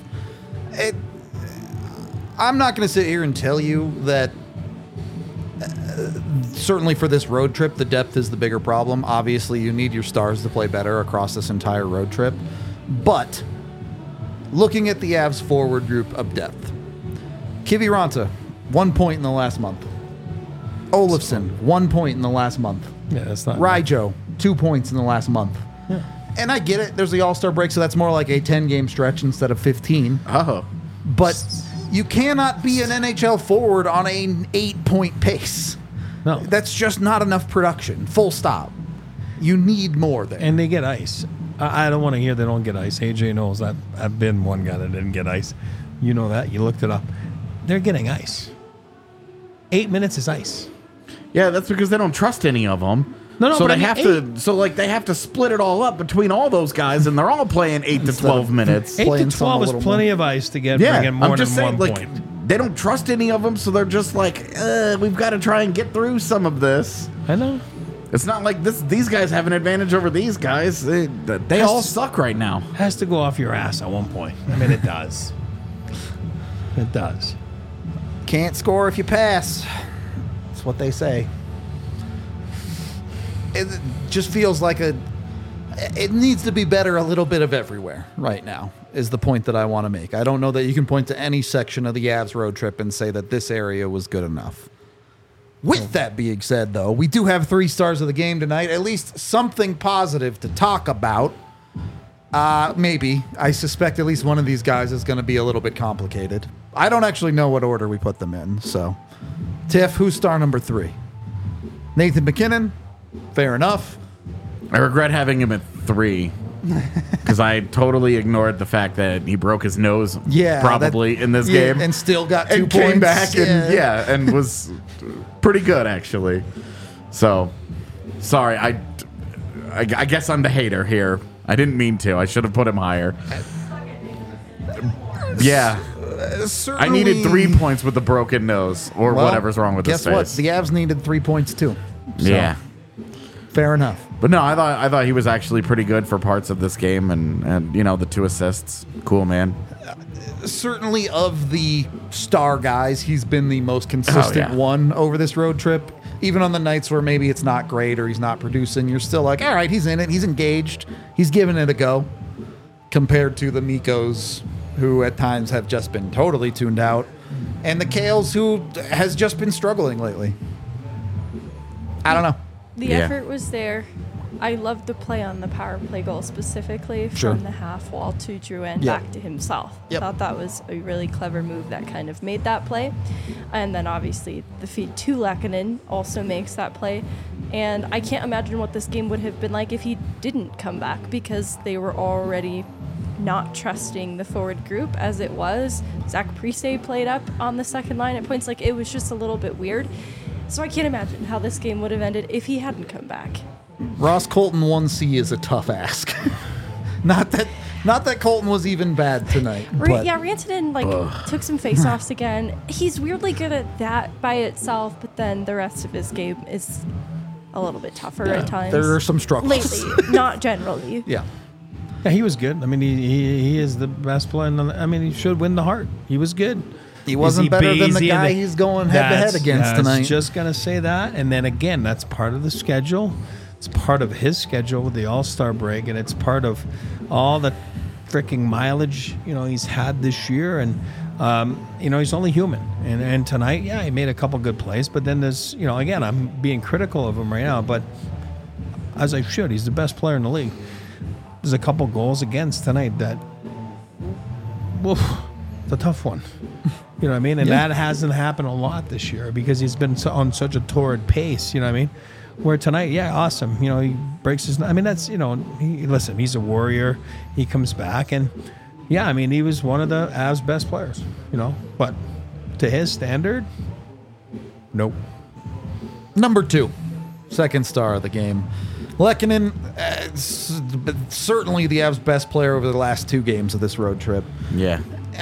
I'm not going to sit here and tell you that certainly for this road trip, the depth is the bigger problem. Obviously, you need your stars to play better across this entire road trip. But looking at the Avs forward group of depth, Kiviranta, 1 point in the last month. Olofsson, 1 point in the last month. Yeah, that's not Ryjo, 2 points in the last month. Yeah. And I get it. There's the All-Star break, so that's more like a 10-game stretch instead of 15. Oh. But you cannot be an NHL forward on an 8-point pace. No. That's just not enough production. Full stop. You need more there. And they get ice. I don't want to hear they don't get ice. AJ knows that. I've been one guy that didn't get ice. You know that. You looked it up. They're getting ice. 8 minutes is ice. Yeah, that's because they don't trust any of them. No, so but they I mean, have to. So like they have to split it all up between all those guys, and they're all playing 8 to 12 minutes. 8 Playing to some 12 a is little plenty more. of ice to get Yeah, bring in more I'm just than saying, 1 like point. they don't trust any of them, so they're just like, we've got to try and get through some of this. I know. It's not like this. These guys have an advantage over these guys. They all suck right now. Has to go off your ass at one point. I mean, it does. It does. Can't score if you pass. That's what they say. It just feels like it needs to be better a little bit of everywhere right now, is the point that I want to make. I don't know that you can point to any section of the Avs road trip and say that this area was good enough. With that being said, though, we do have 3 stars of the game tonight, at least something positive to talk about. Maybe. I suspect at least one of these guys is going to be a little bit complicated. I don't actually know what order we put them in, so. Tiff, who's star number 3? Nathan MacKinnon? Fair enough. I regret having him at 3 because I totally ignored the fact that he broke his nose. Yeah, probably in this game, and still got 2 and points. came back and was pretty good actually. So sorry, I guess I'm the hater here. I didn't mean to. I should have put him higher. Yeah. I needed 3 points with the broken nose or Well, whatever's wrong with his guess what? face. The Avs needed 3 points too. So, Yeah. fair enough. But no, I thought he was actually pretty good for parts of this game, and you know, the 2 assists, cool man. Certainly of the star guys, he's been the most consistent yeah. one over this road trip. Even on the nights where maybe it's not great or he's not producing, you're still like, all right, he's in it, he's engaged, he's giving it a go. Compared to the Mikos, who at times have just been totally tuned out, and the Kales, who has just been struggling lately. I don't know. The Yeah. effort was there. I loved the play on the power play goal specifically Sure. from the half wall to Drouin Yep. back to himself. Yep. Thought that was a really clever move that kind of made that play. And then obviously the feed to Lehkonen also makes that play. And I can't imagine what this game would have been like if he didn't come back, because they were already not trusting the forward group as it was. Zach Parise played up on the second line at points. Like, it was just a little bit weird. So I can't imagine how this game would have ended if he hadn't come back. Ross Colton 1C is a tough ask. not that Colton was even bad tonight. But Yeah, Rantanen took some face-offs again. He's weirdly good at that by itself, but then the rest of his game is a little bit tougher at times. there are some struggles. Lately, not generally. Yeah. Yeah, he was good. I mean, he is the best player. I mean, he should win the Hart. He was good. He wasn't better than the guy he's going head-to-head against tonight. I was just going to say that. And then again, that's part of the schedule. It's part of his schedule with the All-Star break, and it's part of all the freaking mileage, he's had this year. And, he's only human. And tonight, yeah, he made a couple good plays. But then there's, again, I'm being critical of him right now. But as I should, he's the best player in the league. There's a couple goals against tonight that, it's a tough one. You know what I mean? And that hasn't happened a lot this year because he's been on such a torrid pace, you know what I mean? Where tonight, yeah, awesome. He breaks his, that's, he's a warrior. He comes back and, yeah, he was one of the Avs' best players, but to his standard, nope. Number 2, second star of the game. Lehkonen, certainly the Avs' best player over the last 2 games of this road trip. Yeah.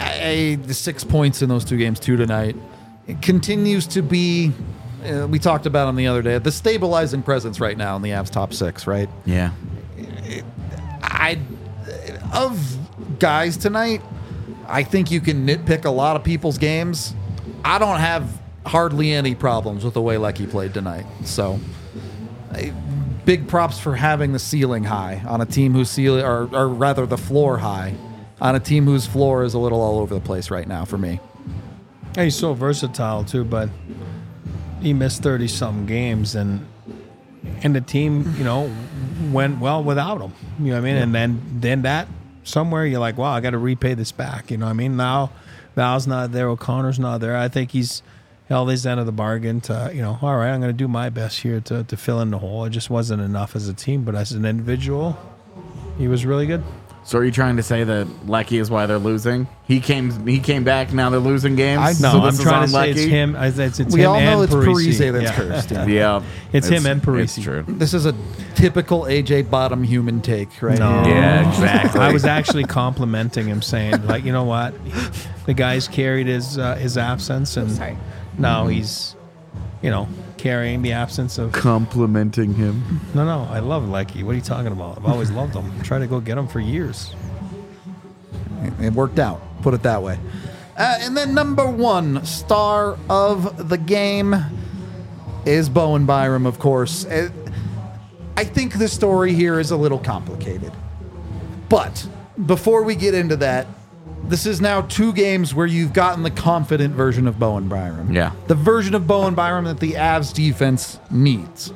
6 points in those 2 games, 2 tonight. It continues to be, we talked about him the other day, the stabilizing presence right now in the Avs' top 6, right? Yeah. Of guys tonight, I think you can nitpick a lot of people's games. I don't have hardly any problems with the way Lecky played tonight. So, big props for having the ceiling high on a team whose ceiling, or rather the floor high, on a team whose floor is a little all over the place right now for me. And he's so versatile too, but he missed 30-something games, and the team, went well without him. You know what I mean? And then that somewhere you're like, wow, I got to repay this back. You know what I mean? Now Val's not there, O'Connor's not there. I think he's held his end of the bargain to, all right, I'm going to do my best here to fill in the hole. It just wasn't enough as a team, but as an individual, he was really good. So are you trying to say that Lecky is why they're losing? He came back, now they're losing games? I'm trying to say it's him. It's we him all know and it's Parisi. Parise that's cursed. Yeah. Yeah. It's him and Parisi. It's true. This is a typical AJ Bottom human take, right? No. here. Yeah, exactly. I was actually complimenting him, saying, like, you know what? The guy's carried his absence, and Sorry. now he's, carrying the absence of. Complimenting him. No, I love Lecky. What are you talking about? I've always loved him. I'm trying to go get him for years. It worked out, put it that way. And then number one star of the game is Bowen Byram, of course. I think the story here is a little complicated. But before we get into that, this is now 2 games where you've gotten the confident version of Bowen Byram. Yeah. The version of Bowen Byram that the Avs defense needs.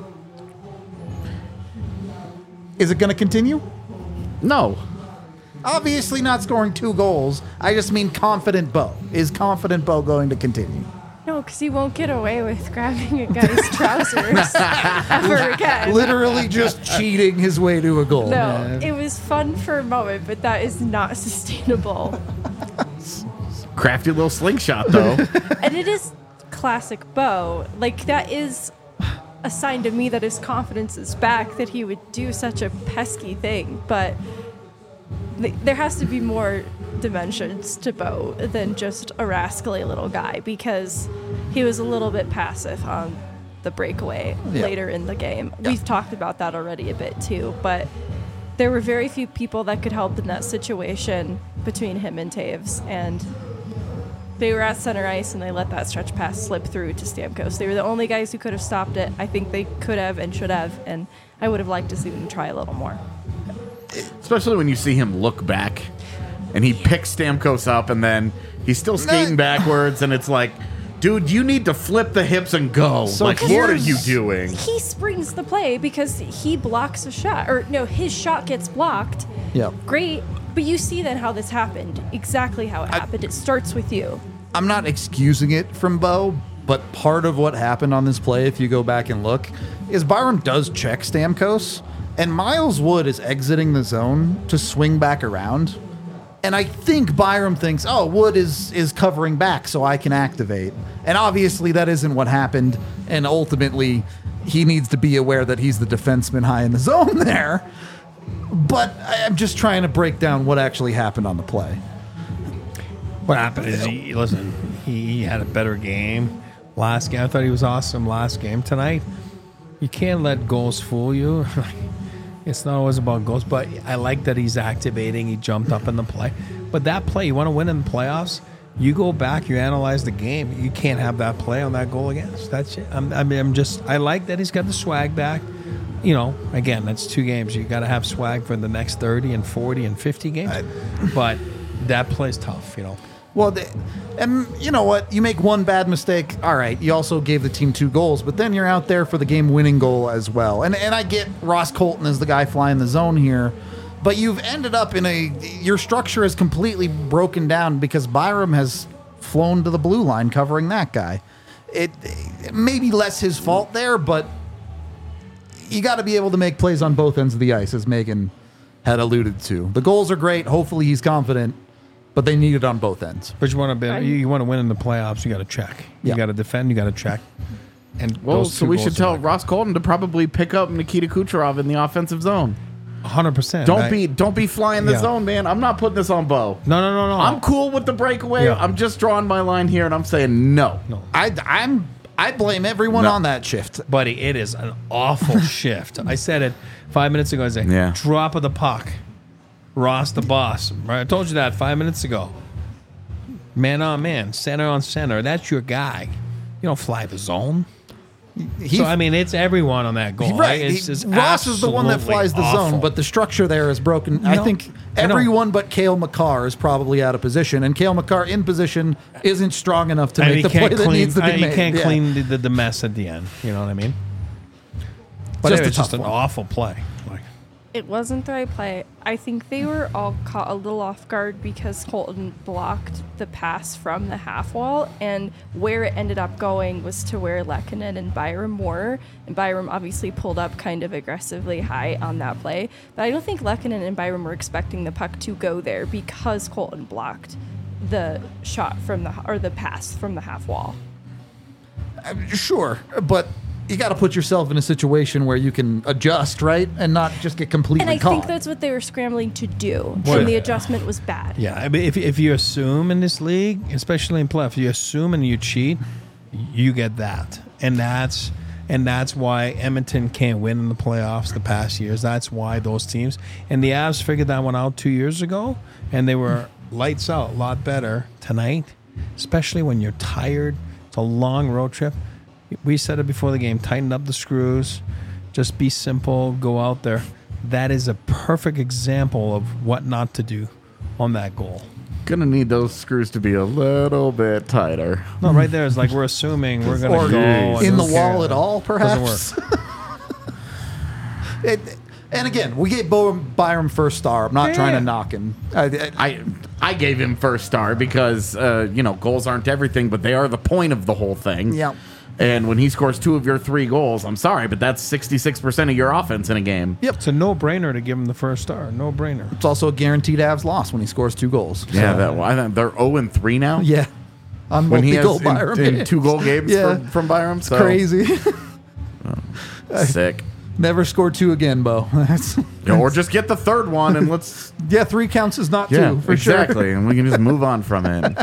Is it going to continue? No. Obviously not scoring 2 goals. I just mean confident Bo. Is confident Bo going to continue? No, because he won't get away with grabbing a guy's trousers ever again. Literally just cheating his way to a goal. No, it was fun for a moment, but that is not sustainable. Crafty little slingshot, though. And it is classic Bo. Like, that is a sign to me that his confidence is back, that he would do such a pesky thing. But there has to be more dimensions to Bo than just a rascally little guy, because he was a little bit passive on the breakaway later in the game. Yeah. We've talked about that already a bit too, but there were very few people that could help in that situation between him and Taves, and they were at center ice and they let that stretch pass slip through to Stamkos. They were the only guys who could have stopped it. I think they could have and should have, and I would have liked to see them try a little more. Especially when you see him look back and he picks Stamkos up and then he's still skating backwards, and it's like, dude, you need to flip the hips and go. So like, what are you doing? He springs the play because he blocks a shot. Or, no, his shot gets blocked. Yep. Great. But you see then how this happened. Exactly how it happened. It starts with you. I'm not excusing it from Bo, but part of what happened on this play, if you go back and look, is Byram does check Stamkos, and Miles Wood is exiting the zone to swing back around. And I think Byram thinks, oh, Wood is covering back so I can activate. And obviously that isn't what happened. And ultimately, he needs to be aware that he's the defenseman high in the zone there. But I'm just trying to break down what actually happened on the play. What happened is, he had a better game last game. I thought he was awesome last game. Tonight, you can't let goals fool you. It's not always about goals, but I like that he's activating. He jumped up in the play. But that play, you want to win in the playoffs, you go back, you analyze the game. You can't have that play on that goal against. That's it. I like that he's got the swag back. Again, that's 2 games. You got to have swag for the next 30 and 40 and 50 games. But that play's tough, Well, and you know what? You make one bad mistake. All right, you also gave the team 2 goals, but then you're out there for the game-winning goal as well. And I get Ross Colton as the guy flying the zone here, but you've ended up your structure is completely broken down because Byram has flown to the blue line covering that guy. It may be less his fault there, but you got to be able to make plays on both ends of the ice, as Megan had alluded to. The goals are great. Hopefully he's confident. But they need it on both ends. But you want to win in the playoffs, you got to check. You got to defend, you got to check. And so we should tell Ross Colton to probably pick up Nikita Kucherov in the offensive zone. 100%. Don't be flying the zone, man. I'm not putting this on Bo. No. I'm cool with the breakaway. Yeah. I'm just drawing my line here, and I'm saying no. I'm I blame everyone No. on that shift. Buddy, it is an awful shift. I said it 5 minutes ago. I said, Yeah. drop of the puck. Ross the boss. Right? I told you that 5 minutes ago. Man on man, center on center. That's your guy. You don't fly the zone. So, I mean, it's everyone on that goal. Right. It's just Ross is the one that absolutely flies the awful. zone, but the structure there is broken. I No, think I know. everyone but Cale Makar is probably out of position, and Cale Makar in position isn't strong enough to And make he the play can't that clean. needs to be He made. can't Yeah. clean the mess at the end. You know what I mean? But Just a it's just tough an one. awful play. Like, It wasn't the right play. I think they were all caught a little off guard because Colton blocked the pass from the half wall, and where it ended up going was to where Lehkonen and Byram were. And Byram obviously pulled up kind of aggressively high on that play. But I don't think Lehkonen and Byram were expecting the puck to go there because Colton blocked the shot from the pass from the half wall. Sure, but you got to put yourself in a situation where you can adjust, right, and not just get completely And I caught. think that's what they were scrambling to do, Sure. and the adjustment was bad. yeah, I mean, if you assume in this league, especially in playoff, you assume and you cheat, you get that, and that's why Edmonton can't win in the playoffs the past years. That's why those teams and the Avs figured that one out 2 years ago, and they were lights out, a lot better tonight, especially when you're tired. It's a long road trip. We said it before the game, tighten up the screws, just be simple, go out there. That is a perfect example of what not to do on that goal. Gonna need those screws to be a little bit tighter. No, right there is like we're assuming we're going Or to go. and in the who wall cares? at all, perhaps. Doesn't work. And again, we gave Byram first star. I'm not trying to knock him. I gave him first star because goals aren't everything, but they are the point of the whole thing. Yeah. And when he scores 2 of your 3 goals, I'm sorry, but that's 66% of your offense in a game. Yep. It's a no-brainer to give him the first star. No-brainer. It's also a guaranteed Avs loss when he scores 2 goals. Yeah, I think they're 0-3 now. Yeah. On When he multi-goal has Byram. in 2 goal games Yeah. from Byram. So Crazy. sick. Never score 2 again, Bo. That's, Or just get the third one and let's 3 counts is not 2, yeah, for exactly, and we can just move on from it.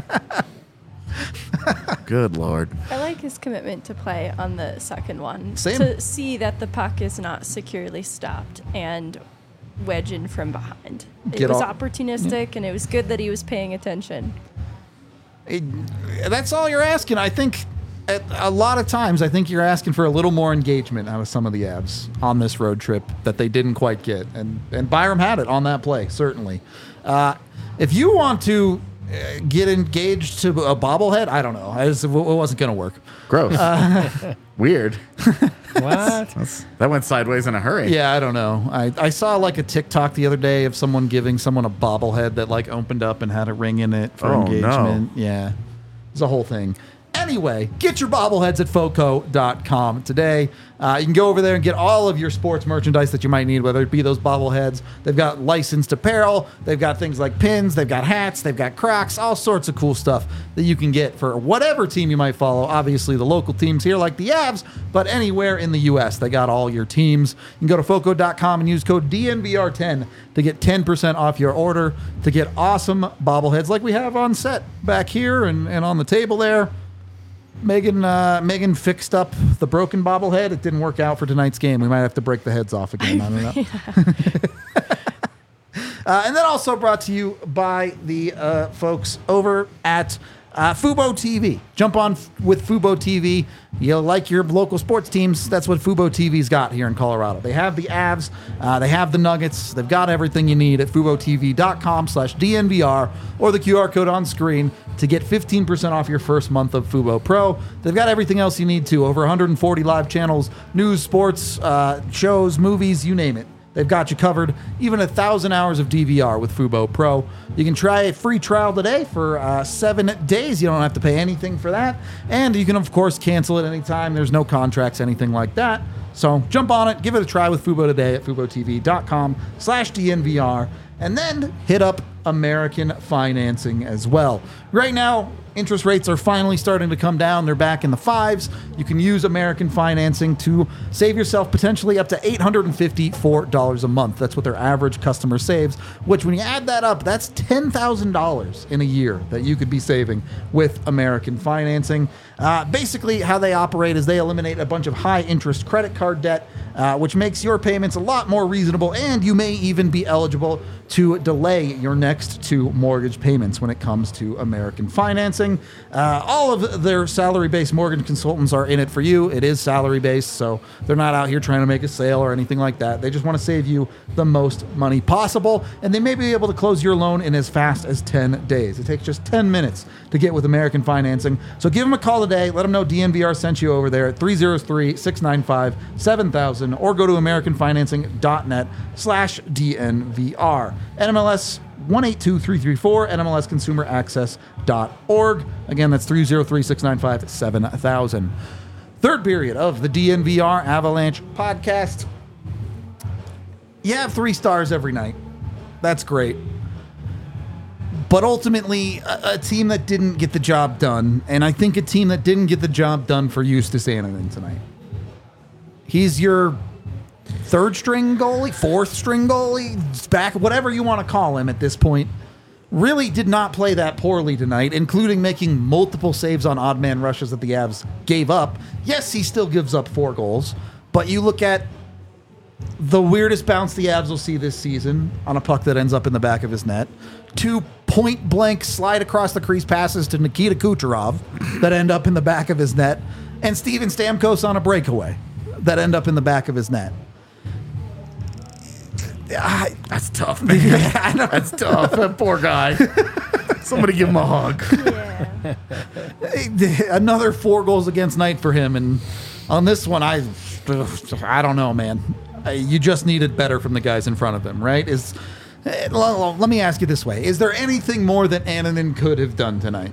Good Lord. I like his commitment to play on the second one. Same. To see that the puck is not securely stopped and wedge in from behind. It Get was off- opportunistic, and it was good that he was paying attention. That's all you're asking. I think a lot of times, I think you're asking for a little more engagement out of some of the Avs on this road trip that they didn't quite get. And Byram had it on that play, certainly. If you want to get engaged to a bobblehead, I don't know. It wasn't going to work. Gross. Weird. What? That went sideways in a hurry. Yeah, I don't know. I saw like a TikTok the other day of someone giving someone a bobblehead that like opened up and had a ring in it for Oh, no. engagement. Yeah, it's a whole thing. Anyway, get your bobbleheads at foco.com today. You can go over there and get all of your sports merchandise that you might need, whether it be those bobbleheads. They've got licensed apparel. They've got things like pins. They've got hats. They've got Crocs, all sorts of cool stuff that you can get for whatever team you might follow. Obviously, the local teams here like the Avs, but anywhere in the U.S., they got all your teams. You can go to foco.com and use code DNVR10 to get 10% off your order to get awesome bobbleheads like we have on set back here and on the table there. Megan fixed up the broken bobblehead. It didn't work out for tonight's game. We might have to break the heads off again. I don't know. And then also brought to you by the folks over at Fubo TV. Jump on with Fubo TV. You like your local sports teams. That's what Fubo TV's got here in Colorado. They have the Avs. They have the Nuggets. They've got everything you need at FuboTV.com/DNVR or the QR code on screen to get 15% off your first month of Fubo Pro. They've got everything else you need too. Over 140 live channels, news, sports, shows, movies, you name it. They've got you covered. Even 1,000 hours of DVR with Fubo Pro. You can try a free trial today for 7 days. You don't have to pay anything for that. And you can, of course, cancel it anytime. There's no contracts, anything like that. So jump on it. Give it a try with Fubo today at FuboTV.com/DNVR. And then hit up American Financing as well. Right now, Interest rates are finally starting to come down. They're back in the 5s. You can use American Financing to save yourself potentially up to $854 a month. That's what their average customer saves, which when you add that up, that's $10,000 in a year that you could be saving with American Financing. Basically, how they operate is they eliminate a bunch of high-interest credit card debt, which makes your payments a lot more reasonable, and you may even be eligible to delay your next 2 mortgage payments when it comes to American Financing. All of their salary-based mortgage consultants are in it for you. It is salary-based, so they're not out here trying to make a sale or anything like that. They just want to save you the most money possible, and they may be able to close your loan in as fast as 10 days. It takes just 10 minutes to get with American Financing. So give them a call today. Let them know DNVR sent you over there at 303-695-7000 or go to AmericanFinancing.net/DNVR. NMLS 182334, NMLSConsumerAccess.org. Again, that's 303-695-7000. Third period of the DNVR Avalanche podcast. You have 3 stars every night. That's great. But ultimately, a team that didn't get the job done, and I think a team that didn't get the job done for Justus Annunen tonight. He's your 3rd-string goalie, 4th-string goalie, back, whatever you want to call him at this point. Really did not play that poorly tonight, including making multiple saves on odd man rushes that the Avs gave up. Yes, he still gives up 4 goals, but you look at the weirdest bounce the Avs will see this season on a puck that ends up in the back of his net. 2 point-blank slide across the crease passes to Nikita Kucherov that end up in the back of his net. And Steven Stamkos on a breakaway that end up in the back of his net. That's tough, man. That's tough. That poor guy. Somebody give him a hug. Yeah. Another 4 goals against night for him. And on this one, I don't know, man. You just needed better from the guys in front of him, right? Let me ask you this way. Is there anything more that Annunen could have done tonight?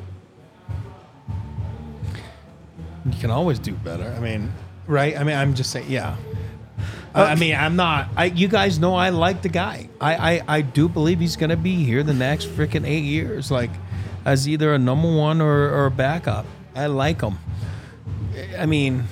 You can always do better. I mean, right? I mean, I'm just saying, yeah. I mean, I'm not. You guys know I like the guy. I do believe he's going to be here the next freaking 8 years, like as either a number 1 or a backup. I like him. I mean,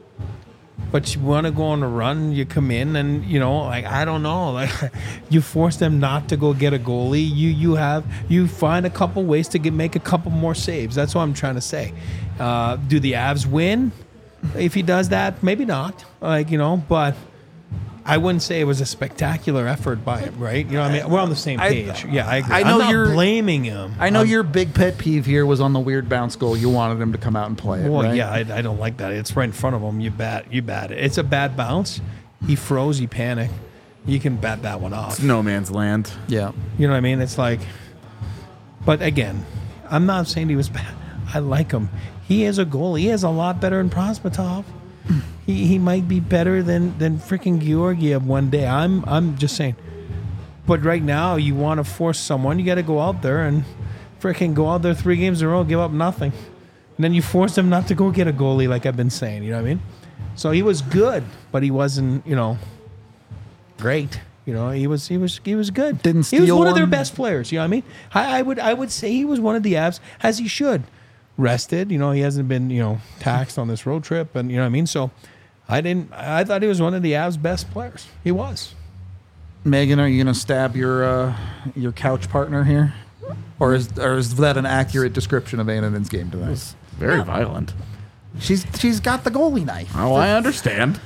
but you want to go on a run, you come in and, you know, like, I don't know, like you force them not to go get a goalie. You find a couple ways to make a couple more saves. That's what I'm trying to say. Do the Avs win? If he does that, maybe not. Like, you know, but I wouldn't say it was a spectacular effort by him, right? You know what I mean? We're on the same page. Yeah, I agree. I know I'm not you're blaming him. I know your big pet peeve here was on the weird bounce goal. You wanted him to come out and play it, Well, right? yeah, I don't like that. It's right in front of him. You bat it. It's a bad bounce. He froze. He panicked. You can bat that one off. It's no man's land. Yeah. You know what I mean? It's like, but again, I'm not saying he was bad. I like him. He is a goalie. He is a lot better than Prosvetov. He might be better than freaking Georgiev one day. I'm just saying. But right now, you want to force someone. You got to go out there and freaking go out there 3 games in a row, give up nothing, and then you force them not to go get a goalie, like I've been saying. You know what I mean? So he was good, but he wasn't, you know, great. You know, he was good. Didn't steal He was one of their one. best players. You know what I mean? I would say he was one of the Avs, as he should. Rested, you know, he hasn't been, you know, taxed on this road trip, and you know what I mean. So, I thought he was one of the Avs' best players. He was. Megan, are you going to stab your couch partner here, or is that an accurate description of Annunen's game tonight? Very violent. She's got the goalie knife. Oh, I understand.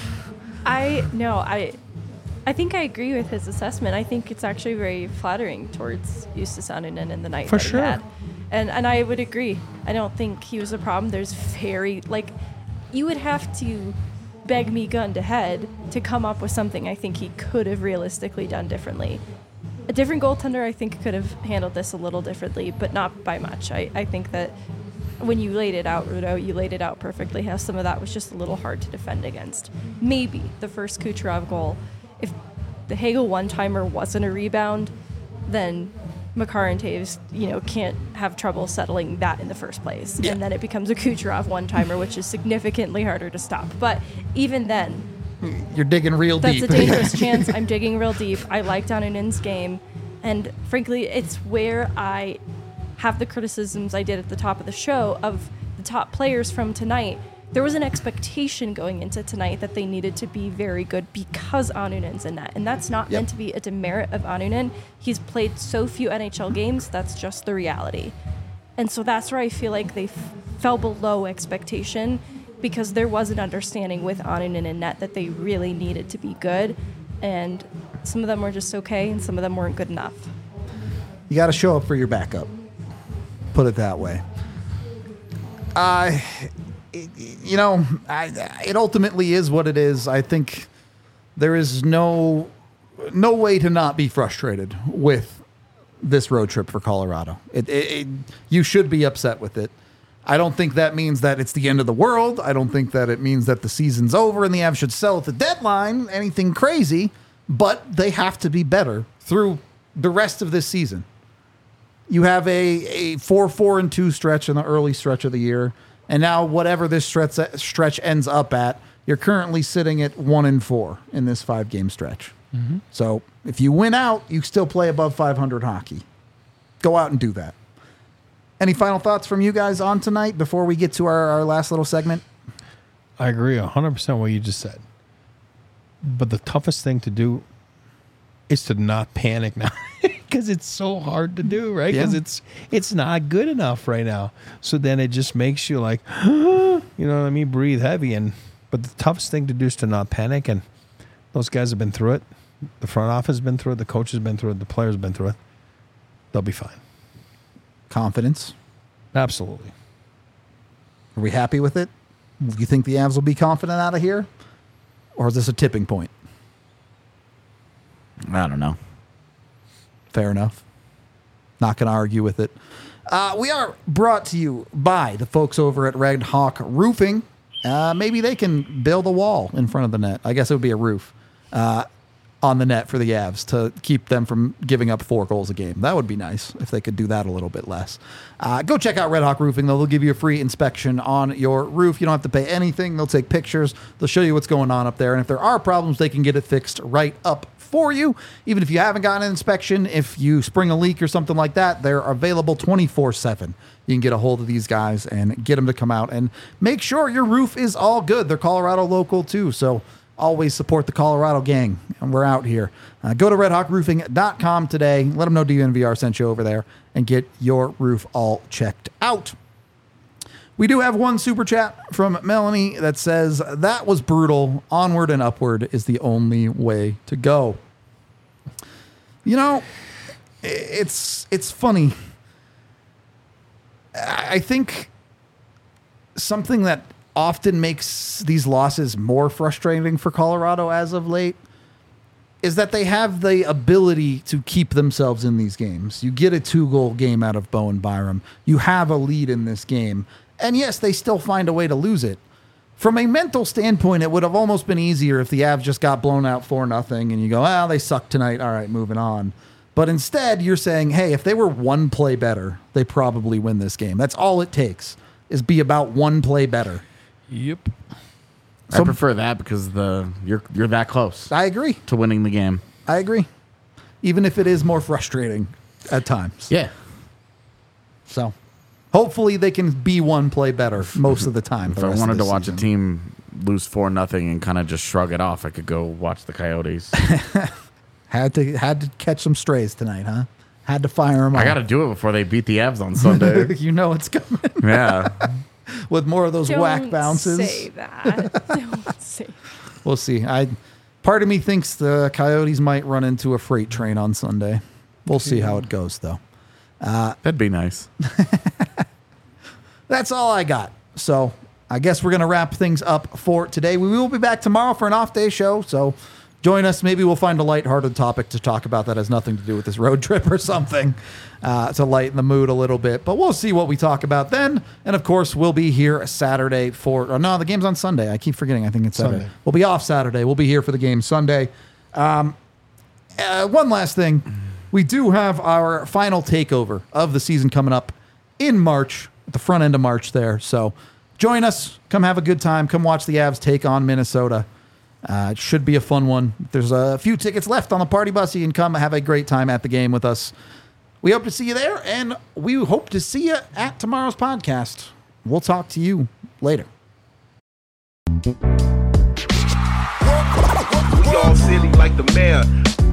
I think I agree with his assessment. I think it's actually very flattering towards Justus Annunen in the night For that sure. he had. And I would agree. I don't think he was a problem. There's you would have to beg me gun to head to come up with something I think he could have realistically done differently. A different goaltender, I think, could have handled this a little differently, but not by much. I think that when you laid it out, Rudo, you laid it out perfectly, how some of that was just a little hard to defend against. Maybe the first Kucherov goal, if the Hagel one-timer wasn't a rebound, then Makar and Taves, you know, can't have trouble settling that in the first place. Yeah. And then it becomes a Kucherov one-timer, which is significantly harder to stop. But even then, You're digging real that's deep. a dangerous chance. I'm digging real deep. I like Annunen's game. And frankly, it's where I have the criticisms I did at the top of the show of the top players from tonight, there was an expectation going into tonight that they needed to be very good because Anunen's in net. And that's not meant to be a demerit of Anunen. He's played so few NHL games, that's just the reality. And so that's where I feel like they fell below expectation, because there was an understanding with Anunen in net that they really needed to be good. And some of them were just okay, and some of them weren't good enough. You got to show up for your backup. Put it that way. It ultimately is what it is. I think there is no way to not be frustrated with this road trip for Colorado. You should be upset with it. I don't think that means that it's the end of the world. I don't think that it means that the season's over and the Avs should sell at the deadline, anything crazy, but they have to be better through the rest of this season. You have a 4-4-2 stretch in the early stretch of the year. And now whatever this stretch ends up at, you're currently sitting at 1-4 in this 5-game stretch. Mm-hmm. So if you win out, you still play above 500 hockey. Go out and do that. Any final thoughts from you guys on tonight before we get to our last little segment? I agree 100% what you just said. But the toughest thing to do is to not panic now, because it's so hard to do, right? Because it's not good enough right now. So then it just makes you like, you know what I mean, breathe heavy. But the toughest thing to do is to not panic. And those guys have been through it. The front office has been through it. The coach has been through it. The players have been through it. They'll be fine. Confidence. Absolutely. Are we happy with it? Do you think the Avs will be confident out of here? Or is this a tipping point? I don't know. Fair enough. Not going to argue with it. We are brought to you by the folks over at Red Hawk Roofing. Maybe they can build a wall in front of the net. I guess it would be a roof on the net for the Avs to keep them from giving up 4 goals a game. That would be nice if they could do that a little bit less. Go check out Red Hawk Roofing, though. They'll give you a free inspection on your roof. You don't have to pay anything. They'll take pictures. They'll show you what's going on up there. And if there are problems, they can get it fixed right up for you. Even if you haven't gotten an inspection, if you spring a leak or something like that, they're available 24/7. You can get a hold of these guys and get them to come out and make sure your roof is all good. They're Colorado local too, so always support the Colorado gang, and we're out here. Go to redhawkroofing.com today. Let them know DNVR sent you over there and get your roof all checked out. We do have one super chat from Melanie that says, "That was brutal. Onward and upward is the only way to go." You know, it's funny. I think something that often makes these losses more frustrating for Colorado as of late is that they have the ability to keep themselves in these games. You get a 2-goal game out of Bowen Byram. You have a lead in this game. And yes, they still find a way to lose it. From a mental standpoint, it would have almost been easier if the Avs just got blown out 4-0 and you go, they suck tonight. All right, moving on. But instead, you're saying, hey, if they were 1 play better, they probably win this game. That's all it takes, is be about 1 play better. Yep. I prefer that because you're that close. I agree. To winning the game. I agree. Even if it is more frustrating at times. Yeah. So hopefully they can be 1 play better most of the time. If I wanted to watch a team lose 4-0 and kind of just shrug it off, I could go watch the Coyotes. Had to catch some strays tonight, huh? Had to fire them. I got to do it before they beat the Avs on Sunday. You know it's coming. Yeah. With more of those whack bounces. Don't say that. Don't say. We'll see. Part of me thinks the Coyotes might run into a freight train on Sunday. We'll see how it goes, though. That'd be nice. That's all I got. So I guess we're going to wrap things up for today. We will be back tomorrow for an off-day show, so join us. Maybe we'll find a lighthearted topic to talk about that has nothing to do with this road trip or something to lighten the mood a little bit. But we'll see what we talk about then. And, of course, we'll be here Saturday the game's on Sunday. I keep forgetting. I think it's Saturday. We'll be off Saturday. We'll be here for the game Sunday. One last thing. We do have our final takeover of the season coming up in March, at the front end of March there. So join us. Come have a good time. Come watch the Avs take on Minnesota. It should be a fun one. There's a few tickets left on the party bus. You can come have a great time at the game with us. We hope to see you there, and we hope to see you at tomorrow's podcast. We'll talk to you later. We all silly like the mayor.